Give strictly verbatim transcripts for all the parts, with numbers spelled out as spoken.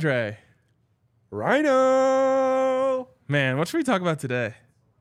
Dre? Rhino. Man, what should we talk about today?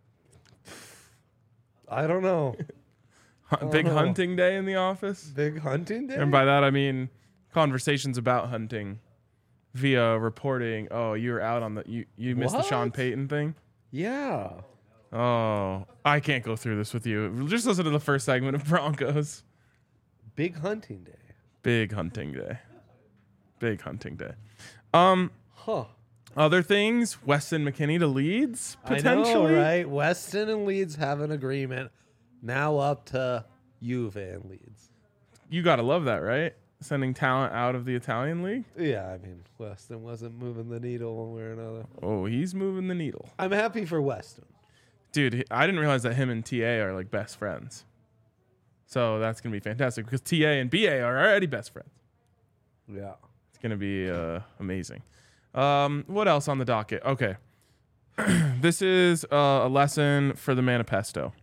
I don't know. Big know. hunting day in the office? Big hunting day? And by that, I mean conversations about hunting via reporting. Oh, you were out on the, you, you missed the Sean What? Payton thing? Yeah. Oh, I can't go through this with you. Just listen to the first segment of Broncos. Big hunting day. Big hunting day. Big hunting day. Um, Huh. Other things, Weston McKennie to Leeds, potentially. I know, right? Weston and Leeds have an agreement. Now up to Juve and Leeds. You got to love that, right? Sending talent out of the Italian league. Yeah, I mean, Weston wasn't moving the needle one way or another. Oh, he's moving the needle. I'm happy for Weston. Dude, he- I didn't realize that him and T A are like best friends. So that's going to be fantastic because T A and B A are already best friends. Yeah. It's going to be uh, amazing. Um, what else on the docket? Okay. This is uh, a lesson for the manifesto.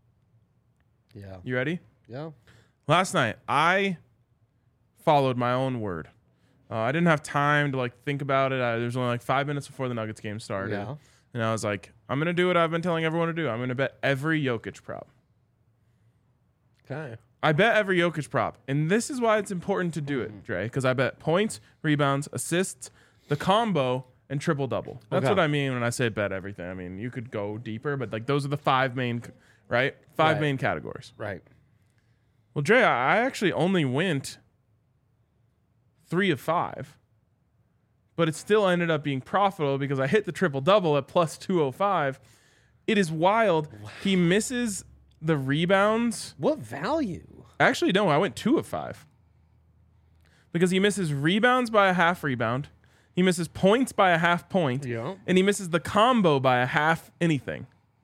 Yeah. You ready? Yeah. Last night, I followed my own word. Uh, I didn't have time to like think about it. I, there was only like five minutes before the Nuggets game started. Yeah. And I was like, I'm going to do what I've been telling everyone to do. I'm going to bet every Jokic prop. Okay. I bet every Jokic prop. And this is why it's important to do it, Dre, because I bet points, rebounds, assists, the combo, and triple-double. That's Okay. what I mean when I say bet everything. I mean, you could go deeper, but like those are the five main, right? Five Right. main categories. Right. Well, Dre, I actually only went three of five, but it still ended up being profitable because I hit the triple-double at plus two oh five. It is wild. Wow. He misses the rebounds. What value? Actually, no, I went two of five. Because he misses rebounds by a half rebound. He misses points by a half point. Yeah. And he misses the combo by a half anything.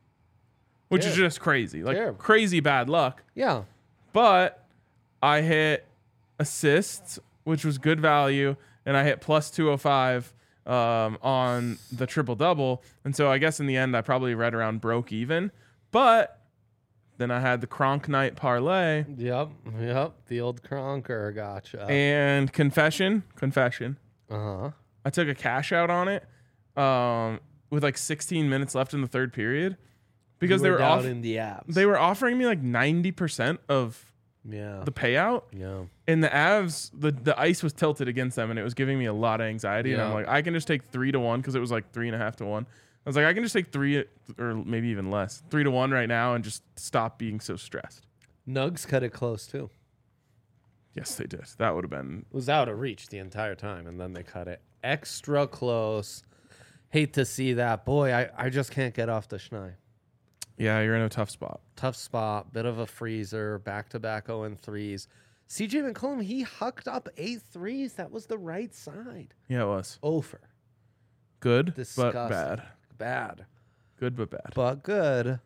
Which Terrible. is just crazy. Like Terrible. crazy bad luck. Yeah. But I hit assists, which was good value. And I hit plus two oh five um, on the triple-double. And so I guess in the end, I probably right around broke even. But then I had the Kronk night parlay. Yep. Yep. The old Kronker. Gotcha. And confession, confession. Uh-huh. I took a cash out on it um, with like sixteen minutes left in the third period because You they were were down off, in the apps. they were offering me like ninety percent of yeah. the payout. Yeah. And the Avs, the, the ice was tilted against them, and it was giving me a lot of anxiety. And I'm Yeah. like, I can just take three to one because it was like three and a half to one. I was like, I can just take three or maybe even less, three to one right now, and just stop being so stressed. Nugs cut it close too. Yes, they did. That would have been. It was out of reach the entire time, and then they cut it extra close. Hate to see that. Boy, I, I just can't get off the Schnei. Yeah, you're in a tough spot. Tough spot, bit of a freezer, back-to-back oh and threes. C J McCollum, he hucked up eight threes. That was the right side. Yeah, it was. Over. Good, Disgusting. but bad. Bad. Good, but bad. But good.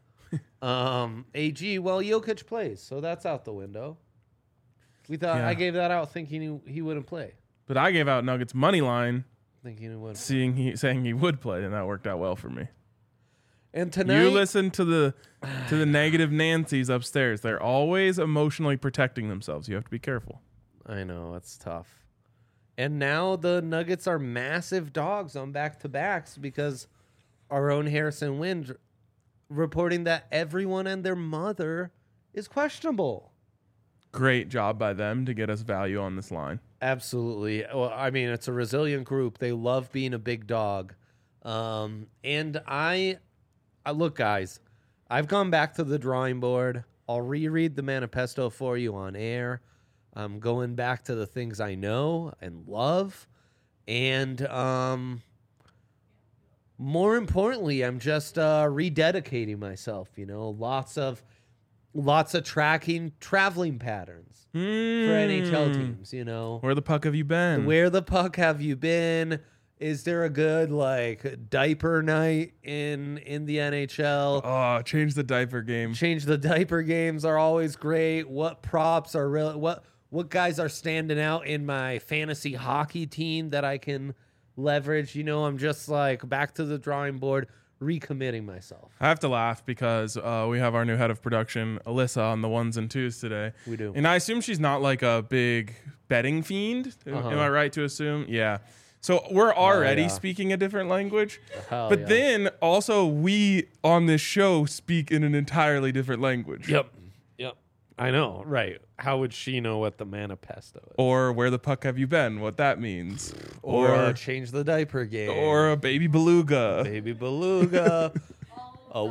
um, A G, well, Jokic plays, so that's out the window. We thought Yeah. I gave that out thinking he, he wouldn't play. But I gave out Nuggets money line, Thinking he wouldn't. seeing he saying he would play, and that worked out well for me. And tonight, You listen to the to the negative Nancys upstairs. They're always emotionally protecting themselves. You have to be careful. I know, it's tough. And now the Nuggets are massive dogs on back-to-backs because our own Harrison Wind reporting that everyone and their mother is questionable. Great job by them to get us value on this line. Absolutely. Well, I mean, it's a resilient group. They love being a big dog. Um, and I, I look, guys, I've gone back to the drawing board. I'll reread the manifesto for you on air. I'm going back to the things I know and love. And um, more importantly, I'm just uh, rededicating myself, you know, lots of lots of tracking traveling patterns for N H L teams, you know. Where the puck have you been? Where the puck have you been? Is there a good like diaper night in in the N H L? Oh, change the diaper game. Change the diaper games are always great. What props are real? What what guys are standing out in my fantasy hockey team that I can leverage? You know, I'm just like back to the drawing board, recommitting myself. I have to laugh because uh, we have our new head of production, Alyssa, on the ones and twos today. We do. And I assume she's not like a big betting fiend. Uh-huh. Am I right to assume? Yeah. So we're already yeah. speaking a different language. Hell But yeah. then also we on this show speak in an entirely different language. Yep. Yep. I know. Right. How would she know what the manifesto is? Or where the puck have you been? What that means. Or, Or uh, change the diaper game. or a baby beluga. baby beluga. a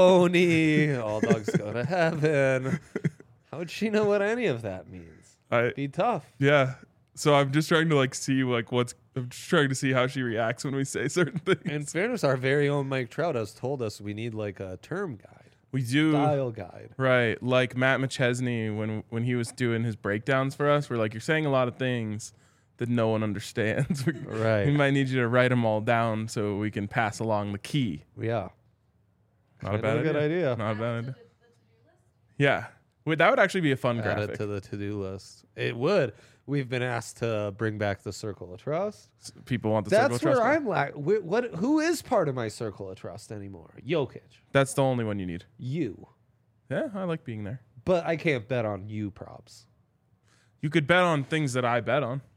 wony. All dogs go to heaven. How would she know what any of that means? I Be tough. yeah. So I'm just trying to like see like what's I'm just trying to see how she reacts when we say certain things. In fairness, our very own Mike Trout has told us we need like a term guide, We do style guide. right, like Matt McChesney when when he was doing his breakdowns for us. We're like, you're saying a lot of things that no one understands. We Right. might need you to write them all down so we can pass along the key. Yeah. Not a Kinda bad a good idea. idea. Not a bad idea. Yeah, Wait, that would actually be a fun Add graphic. it to the to-do list. It would. We've been asked to bring back the Circle of Trust. People want the circle That's of trust. where one. I'm like. Wh- what? Who is part of my Circle of Trust anymore? Jokic. That's the only one you need. You. Yeah, I like being there. But I can't bet on you props. You could bet on things that I bet on.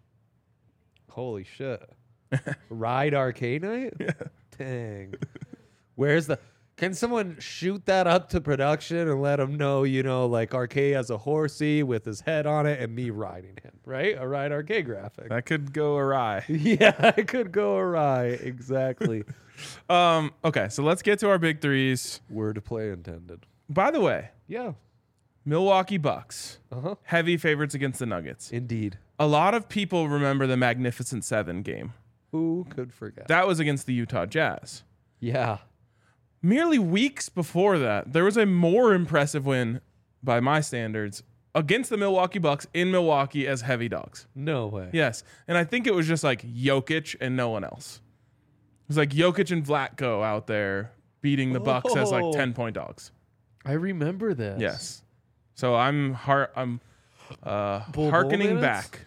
Holy shit. Ride Arcade Night? Yeah. Dang. Where's the... Can someone shoot that up to production and let them know, you know, like Arcade has a horsey with his head on it and me riding him, right? A Ride Arcade graphic. That could go awry. Yeah, it could go awry. Exactly. Um, okay, so let's get to our big threes. Word play intended. By the way, Yeah. Milwaukee Bucks, Uh-huh. heavy favorites against the Nuggets. Indeed. A lot of people remember the Magnificent Seven game. Who could forget? That was against the Utah Jazz. Yeah. Merely weeks before that, there was a more impressive win, by my standards, against the Milwaukee Bucks in Milwaukee as heavy dogs. No way. Yes, and I think it was just like Jokic and no one else. It was like Jokic and Vlatko out there beating the Bucks as like Oh. ten point dogs. I remember this. Yes. So I'm har- I'm uh, Bull hearkening minutes? back.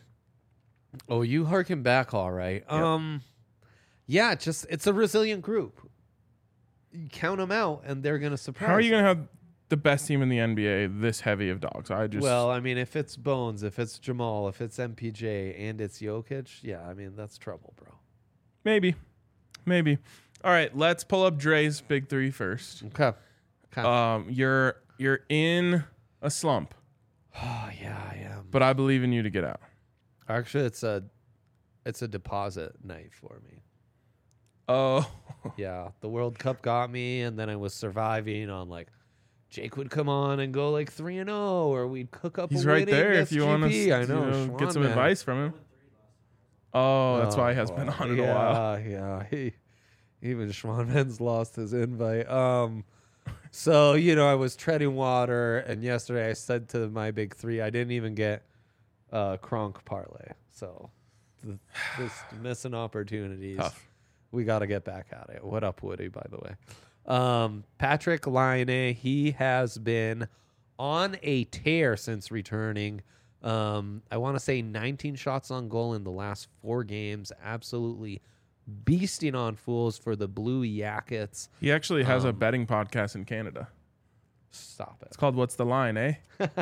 Oh, you harken back all right. Um yeah, just it's a resilient group. You count them out and they're going to surprise. How are you going to have the best team in the N B A this heavy of dogs? I just Well, I mean, if it's Bones, if it's Jamal, if it's M P J and it's Jokic, yeah, I mean, that's trouble, bro. maybe, maybe. All right, let's pull up Dre's big three first. Okay. okay. Um, you're you're in a slump, oh, yeah, I am. but I believe in you to get out. Actually, it's a it's a deposit night for me. Oh, Yeah, the World Cup got me, and then I was surviving on like Jake would come on and go like three and zero, or we'd cook up. he's a right winning there if S you G P. want to I know, you know, get Schwan, some man. advice from him. Oh, that's why he has been on in yeah, a while. Yeah, he, even Schwanman's lost his invite. Um, so you know, I was treading water, and yesterday I said to my big three, I didn't even get uh, Kronk parlay. So th- just missing opportunities. Tough. We got to get back at it. What up, Woody? By the way, um, Patrick Laine, he has been on a tear since returning. Um, I want to say nineteen shots on goal in the last four games. Absolutely beasting on fools for the Blue Jackets. He actually has a Um, betting podcast in Canada. Stop it. It's called What's the Line, eh?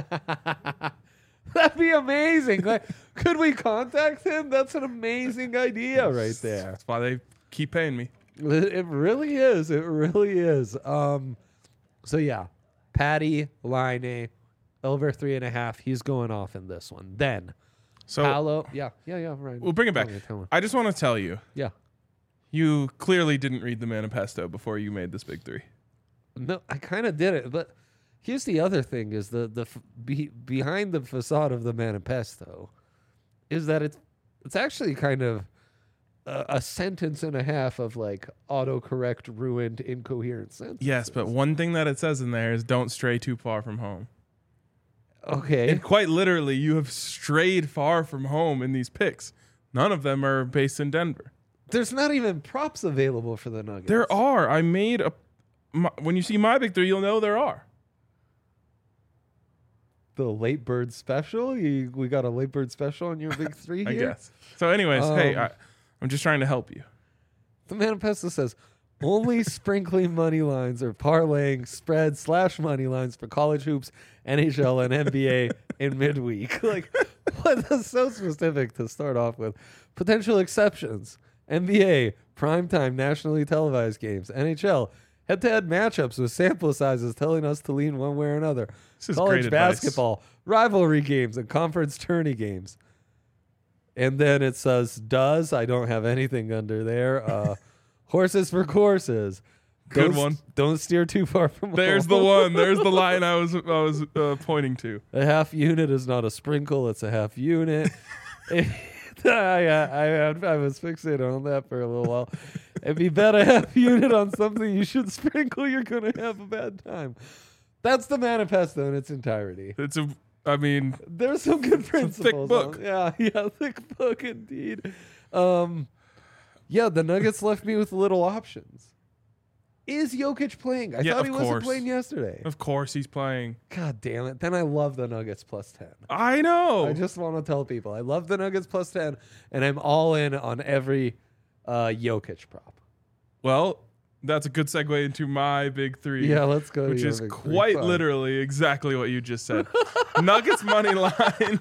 That'd be amazing. Like, could we contact him? That's an amazing idea right there. That's why they keep paying me. It really is. It really is. Um, so yeah, Patty Line over three and a half. He's going off in this one. Then So Paolo. Yeah, yeah, yeah. Right. we'll bring it back. Tell me, tell me. I just want to tell you, Yeah. you clearly didn't read the manifesto before you made this big three. No, I kind of did it, but here's the other thing: is the the f- be, behind the facade of the manifesto is that it's it's actually kind of a, a sentence and a half of like autocorrect ruined incoherent sentences. Yes, but one thing that it says in there is don't stray too far from home. okay, And quite literally, you have strayed far from home in these picks. None of them are based in Denver. there's not even props available for the Nuggets. There are. I made a. My, when you see my big three, you'll know there are. The late bird special. You, we got a late bird special on your big three I here. guess. So, anyways, hey, Um, I, I'm just trying to help you. The manifesto says only sprinkling money lines or parlaying spread slash money lines for college hoops, N H L, and N B A in midweek. Like, what? That's so specific to start off with. Potential exceptions: N B A, primetime nationally televised games. N H L, head-to-head matchups with sample sizes telling us to lean one way or another. This is College great advice. basketball, rivalry games, and conference tourney games. And then it says, does, I don't have anything under there. Uh, horses for courses. Good Don't- one. Don't steer too far from There's the home. one. There's the line I was I was uh, pointing to. A half unit is not a sprinkle; it's a half unit. I, I, I, I was fixated on that for a little while. If you bet a half unit on something you should sprinkle, you're gonna have a bad time. That's the manifesto in its entirety. It's a. I mean, There's some good principles. book. on- yeah, yeah, thick book indeed. Um, yeah, the Nuggets left me with little options. Is Jokic playing? I Yeah, thought of he wasn't course. playing yesterday. of course he's playing. God damn it. Then I love the Nuggets plus ten. I know. I just want to tell people I love the Nuggets plus ten, and I'm all in on every uh, Jokic prop. Well, that's a good segue into my big three. Yeah, let's go. to Which your is big three. quite Fine. literally exactly what you just said. Nuggets money line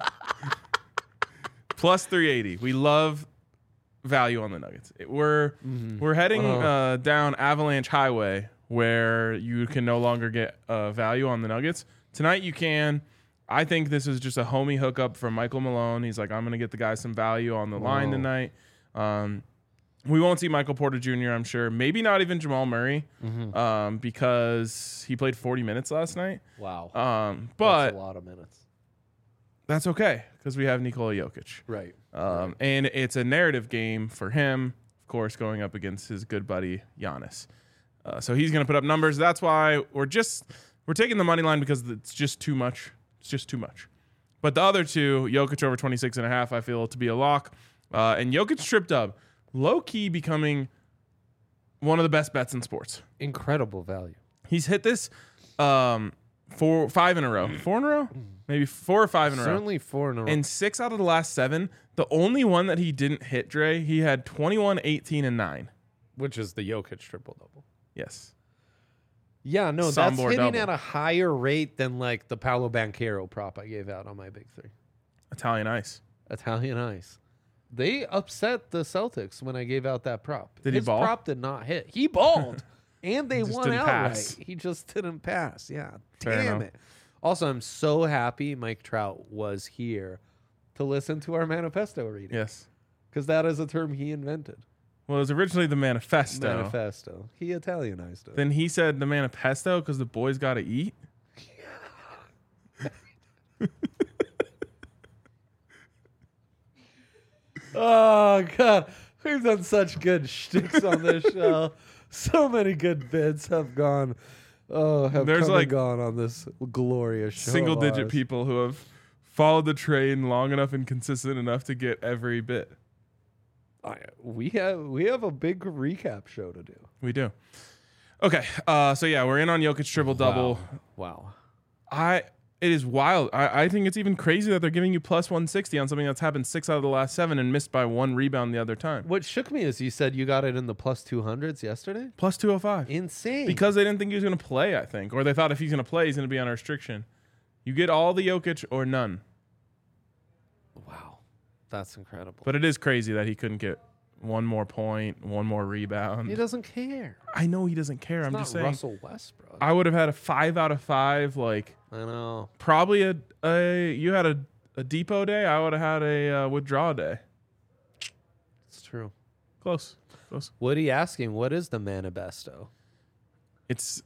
plus three eighty. We love value on the Nuggets. It- we're we're heading Uh-huh. uh, down Avalanche Highway where you can no longer get uh, value on the Nuggets. Tonight you can. I think this is just a homie hookup from Michael Malone. He's like, I'm going to get the guys some value on the line Whoa. tonight. Um, we won't see Michael Porter Junior, I'm sure. Maybe not even Jamal Murray Mm-hmm. um, because he played forty minutes last night. Wow. Um, That's but a lot of minutes. that's okay because we have Nikola Jokic. Right. Um, and it's a narrative game for him, of course, going up against his good buddy Giannis. Uh, so he's going to put up numbers. That's why we're just we're taking the money line because it's just too much. It's just too much. But the other two, Jokic over twenty-six and a half, I feel to be a lock. Uh, and Jokic trip dub, low key becoming one of the best bets in sports. Incredible value. He's hit this um, four, five in a row, four in a row, maybe four or five in a row. Certainly four in a row. And six out of the last seven, the only one that he didn't hit, Dre, he had twenty-one, eighteen, and nine. which is the Jokic triple double. Yes. Yeah, no, that's Sombor hitting double. at a higher rate than like the Paolo Banchero prop I gave out on my big three. Italian ice. Italian Ice. They upset the Celtics when I gave out that prop. Did he His ball? prop did not hit. He balled, and they Just won didn't outright. pass. He just didn't pass. Yeah, Fair damn enough. it. Also, I'm so happy Mike Trout was here to listen to our manifesto reading Yes. because that is a term he invented. Well, it was originally the manifesto. Manifesto. He Italianized it. Then he said the manifesto because the boys got to eat. Oh God, we've done such good shticks on this show. So many good bits have gone. Oh, have There's come like and gone on this glorious show. Single of digit ours. people who have followed the train long enough and consistent enough to get every bit. I, we have we have a big recap show to do. We do. Okay. Uh, so yeah, we're in on Jokic triple double. Wow. I it is wild. I, I think it's even crazy that they're giving you plus one sixty on something that's happened six out of the last seven and missed by one rebound the other time. What shook me is you said you got it in the plus two hundreds yesterday. Plus two oh five. Insane. Because they didn't think he was going to play, I think. Or they thought if he's going to play, he's going to be on a restriction. You get all the Jokic or none. wow, that's incredible. But it is crazy that he couldn't get one more point, one more rebound. he doesn't care. I know he doesn't care. It's I'm not just saying. Russell Westbrook. I would have had a five out of five. Like I know. probably a, a you had a, a depot day. I would have had a uh, withdraw day. It's true. Close, close. Woody asking, what is the manifesto? It's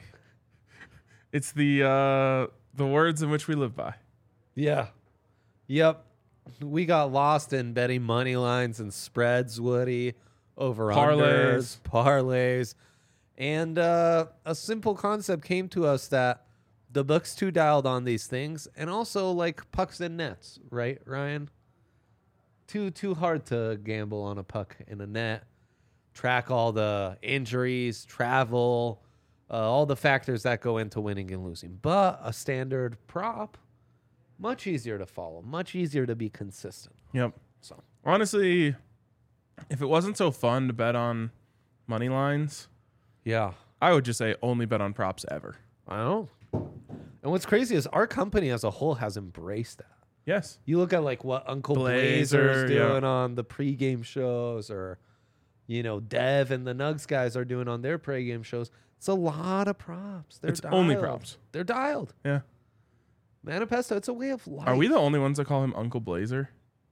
it's the uh, the words in which we live by. Yeah. Yep. We got lost in betting money lines and spreads, Woody, over Parlays. unders, parlays. And uh, a simple concept came to us that the book's too dialed on these things, and also like pucks and nets, right, Ryan? Too too hard to gamble on a puck in a net. Track all the injuries, travel, uh, all the factors that go into winning and losing. But a standard prop, much easier to follow, much easier to be consistent. Yep. So Honestly, if it wasn't so fun to bet on money lines, yeah, I would just say only bet on props ever. I know. And what's crazy is our company as a whole has embraced that. Yes. You look at like what Uncle Blazer, Blazer's yeah. doing on the pregame shows, or you know, Dev and the Nugs guys are doing on their pregame shows. It's a lot of props. They're It's dialed. only props. They're dialed. Yeah. Manifesto, it's a way of life. Are we the only ones that call him Uncle Blazer?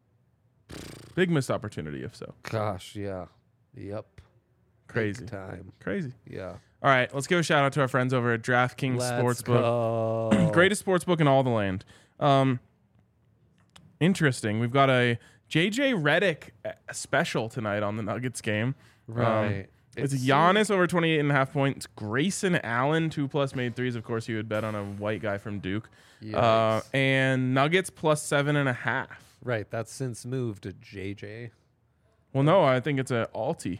Big missed opportunity, if so. Gosh, yeah. Yep. Crazy. Big time. Crazy. Yeah. All right, let's give a shout out to our friends over at DraftKings Let's Sportsbook. go. Greatest sportsbook in all the land. Um, interesting. We've got a J J Redick special tonight on the Nuggets game. Right. Um, it's It's- Giannis over twenty-eight and a half points. Grayson Allen, two plus made threes. Of course, you would bet on a white guy from Duke. Uh, Yikes. and Nuggets plus seven and a half. Right. That's since moved to J J. Well, no, I think it's a alti.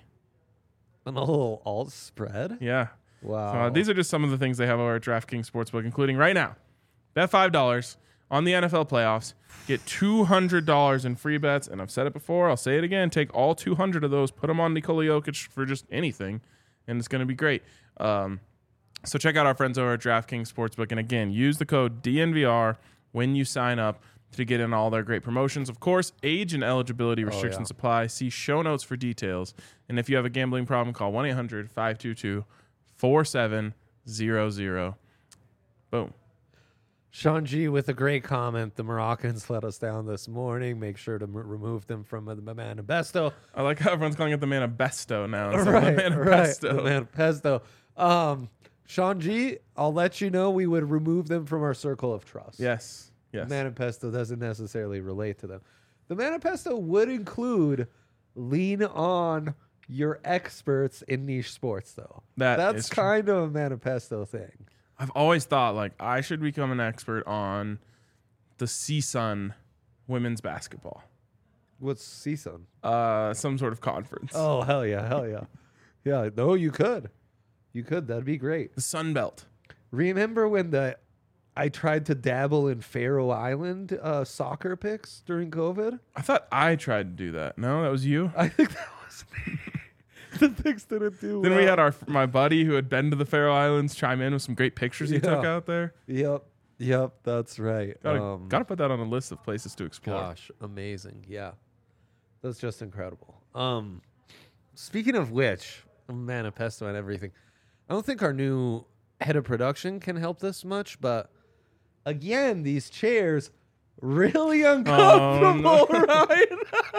An little alt spread. Yeah. Wow. So, uh, these are just some of the things they have over at DraftKings Sportsbook, including right now. Bet five dollars on the N F L playoffs. Get two hundred dollars in free bets. And I've said it before. I'll say it again. Take all two hundred of those. Put them on Nikola Jokic for just anything. And it's going to be great. Um, so check out our friends over at DraftKings Sportsbook. And again, use the code D N V R when you sign up to get in all their great promotions. Of course, age and eligibility restrictions yeah. apply. See show notes for details. And if you have a gambling problem, call one eight hundred five two two four seven zero zero. Boom. Sean G with a great comment. The Moroccans let us down this morning. Make sure to m- remove them from the manifesto. I like how everyone's calling it the Manifesto now. Instead Right, of the right. Manifesto. The manifesto. Um, Sean G, I'll let you know we would remove them from our circle of trust. Yes. Yes. Manifesto doesn't necessarily relate to them. The manifesto would include lean on your experts in niche sports, though. That That's is true. kind of a manifesto thing. I've always thought like I should become an expert on the C S U N women's basketball. What's C S U N? Uh, some sort of conference. Oh, hell yeah, hell yeah. Yeah, no, you could. You could. That'd be great. The Sun Belt. Remember when the I tried to dabble in Faroe Island uh, soccer picks during COVID? I thought I tried to do that. No, that was you. I think that was me. The picks didn't do Then well. we had our my buddy who had been to the Faroe Islands chime in with some great pictures he took Yeah. out there. Yep. Yep, that's right. Gotta, Um, gotta put that on a list of places to explore. Gosh, amazing. Yeah. That's just incredible. Um speaking of which, manifesto and everything. I don't think our new head of production can help this much, but again, these chairs really uncomfortable, Ryan.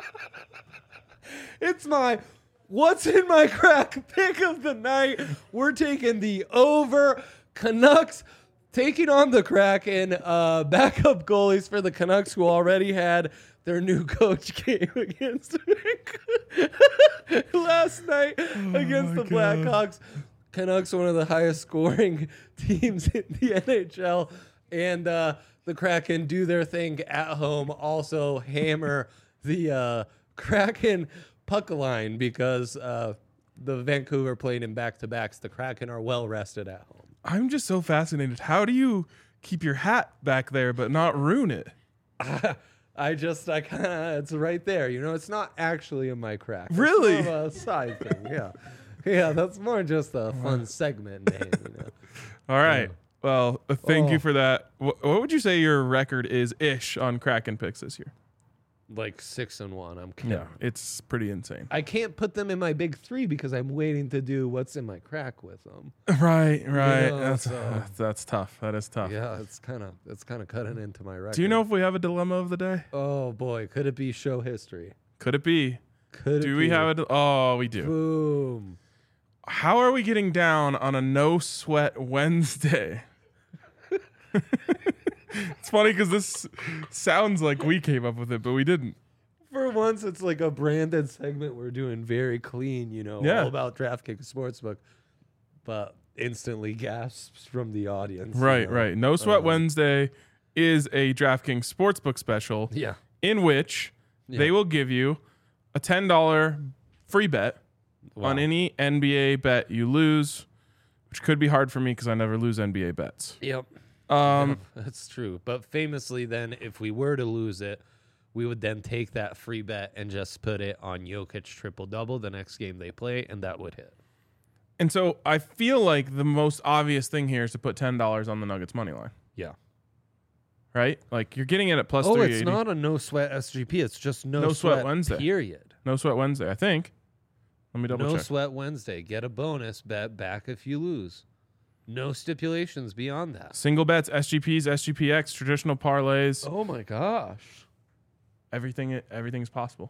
It's my what's in my crack pick of the night. We're taking the over. Canucks taking on the Kraken. Uh, backup goalies for the Canucks who already had their new coach game against last night against my the God. Blackhawks. Canucks, one of the highest scoring teams in the N H L. And uh, the Kraken do their thing at home. Also hammer the uh, Kraken puck line because uh, the Vancouver played in back-to-backs. The Kraken are well rested at home. I'm just so fascinated. How do you keep your hat back there but not ruin it? I just, I kind of, it's right there. You know, it's not actually in my crack. It's Really? more of a side thing, yeah. Yeah, that's more just a fun segment name, you know. All right. Well, uh, thank you Oh. for that. Wh- what would you say your record is ish on Kraken picks this year? Like six and one. I'm kidding. Yeah, it's pretty insane. I can't put them in my big three because I'm waiting to do what's in my crack with them. Right, right. know, that's, so- that's tough. That is tough. Yeah, it's kind of it's kind of cutting into my record. Do you know if we have a dilemma of the day? Oh boy, could it be show history? Could it be? Could it Do we be? have a? di- Oh, we do. Boom. How are we getting down on a no sweat Wednesday? It's funny because this sounds like we came up with it, but we didn't. For once, it's like a branded segment we're doing very clean, you know, Yeah. all about DraftKings Sportsbook, but instantly gasps from the audience. you Right, know? right. No Sweat Um, Wednesday is a DraftKings Sportsbook special Yeah. in which Yeah. they will give you a ten dollars free bet on Wow. any N B A bet you lose, which could be hard for me because I never lose N B A bets. Yep. Um, That's true. But famously, then, if we were to lose it, we would then take that free bet and just put it on Jokic triple double the next game they play, and that would hit. And so I feel like the most obvious thing here is to put ten dollars on the Nuggets money line, Yeah. right? Like you're getting it at plus Oh, three it's eighty. not a no sweat S G P. It's just no, No Sweat sweat Wednesday. Period. No Sweat Wednesday, I think. Let me double no check. sweat Wednesday. Get a bonus bet back if you lose. No stipulations beyond that. Single bets, S G Ps, S G P X, traditional parlays. Oh my gosh. Everything, everything's possible.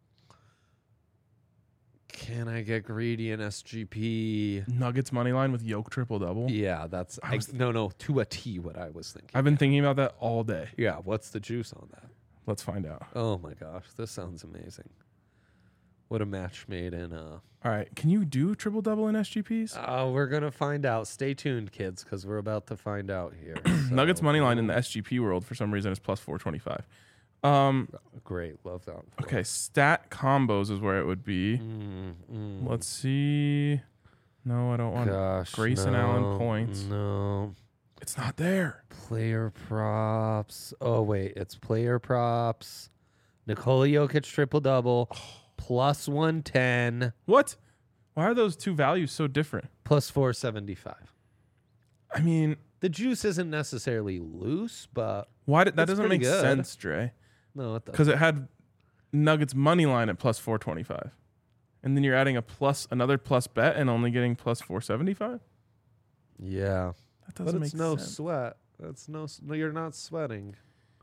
Can I get greedy in S G P? Nuggets money line with Yoke triple double. Yeah, that's I was- I, no, no, to a T. What I was thinking. I've been thinking about that all day. yeah, what's the juice on that? Let's find out. Oh my gosh, this sounds amazing. What a match made in. Uh, All right, can you do triple double in S G Ps? oh, we're gonna find out. Stay tuned, kids, because we're about to find out here. Nuggets So, money line in the S G P world for some reason is plus four twenty five. Um, Great, love that. okay, stat combos is where it would be. Mm, mm. Let's see. No, I don't want. Gosh, Grayson no, Allen points. No. It's not there. Player props. Oh wait, it's player props. Nikola Jokic triple double, plus one ten, What? Why are those two values so different? plus four seventy five. I mean, The juice isn't necessarily loose, but why did that It's doesn't pretty make good. sense, Dre? no, it does. Because it had Nuggets money line at plus four twenty five, and then you're adding a plus another plus bet and only getting plus four seventy five. Yeah, That but doesn't it's make no sense. sweat. That's no. s- No, you're not sweating.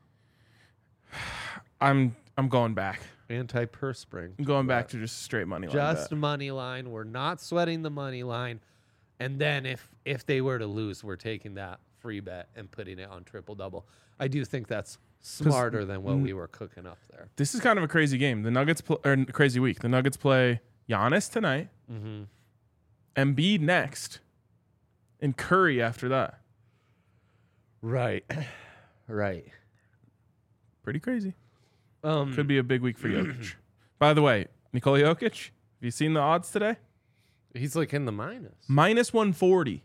I'm I'm going back. Anti-perspring. I'm going back to just straight money line. Just bet. money line. We're not sweating the money line. And then if if they were to lose, we're taking that free bet and putting it on triple double. I do think that's smarter than what n- we were cooking up there. This is kind of a crazy game. The Nuggets pl- or n- crazy week. The Nuggets play Giannis tonight, Mm-hmm. Embiid next, and Curry after that. Right. Right. Pretty crazy. Um, Could be a big week for Jokic. By the way, Nikola Jokic, have you seen the odds today? he's like in the minus. Minus one forty.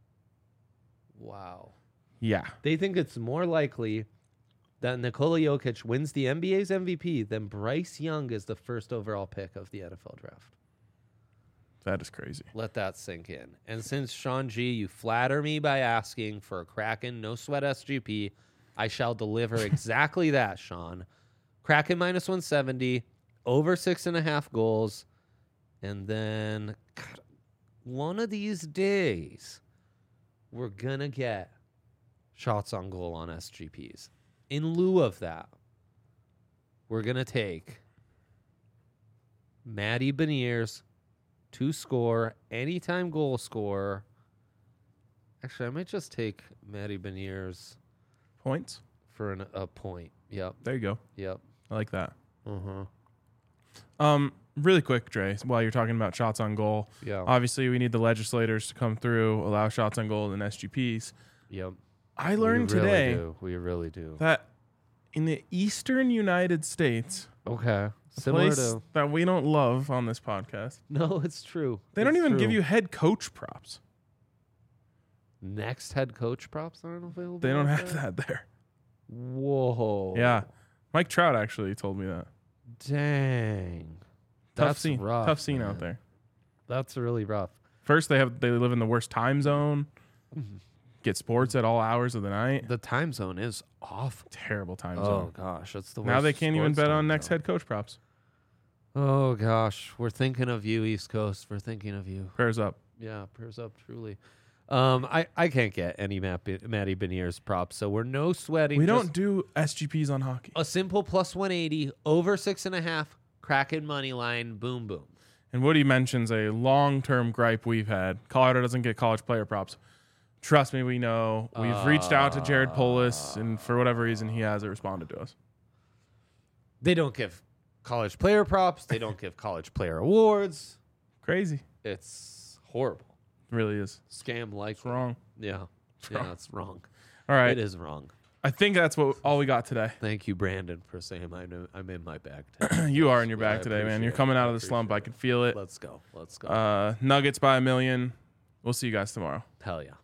Wow. Yeah. They think it's more likely that Nikola Jokic wins the N B A's M V P than Bryce Young is the first overall pick of the N F L draft. That is crazy. Let that sink in. And since Sean G, you flatter me by asking for a Kraken no sweat S G P, I shall deliver exactly that, Sean. Kraken minus one seventy, over six and a half goals, and then God, one of these days we're gonna get shots on goal on S G Ps. In lieu of that, we're gonna take Matty Beniers to score, anytime goal scorer. Actually, I might just take Matty Beniers Points. for an, a point. Yep, There you go. yep. I like that. Uh-huh. Um, really quick, Dre, while you're talking about shots on goal, Yeah. obviously we need the legislators to come through, allow shots on goal and S G Ps. Yep. I learned we really today Do. We really do. that in the eastern United States, Okay. a Similar place to that we don't love on this podcast, no, it's true. they don't It's even give true. you head coach props. next head coach props aren't available. They don't out have there? that there. Whoa. Yeah. Mike Trout actually told me that. Dang. Tough That's scene. rough, Tough scene man. out there. That's really rough. First, they have they live in the worst time zone. Mm-hmm. Get sports at all hours of the night. The time zone is awful. Terrible time Oh zone. gosh, that's the worst. Now they can't even sports bet on time next zone. head coach props. Oh gosh, we're thinking of you, East Coast. We're thinking of you. Prayers up. Yeah, prayers up, truly. Um, I, I can't get any Matt B- Matty Beniers props, so we're no sweating. We just don't do S G Ps on hockey. a simple plus one eighty over six and a half. Kraken money line. Boom boom. And Woody mentions a long-term gripe we've had. Colorado doesn't get college player props. Trust me, we know. We've reached out to Jared Polis, and for whatever reason, he hasn't responded to us. They don't give college player props. They don't give college player awards. Crazy. It's horrible. It really is. Scam like It's wrong. Yeah. wrong. Yeah, it's wrong. All right. It is wrong. I think that's what all we got today. Thank you, Brandon, for saying I'm, I'm in my bag. You are in your Yeah, I bag today, man. appreciate You're it. coming out I of the slump. I appreciate can feel it. Let's go. Let's go. Uh, Nuggets by a million. We'll see you guys tomorrow. Hell yeah.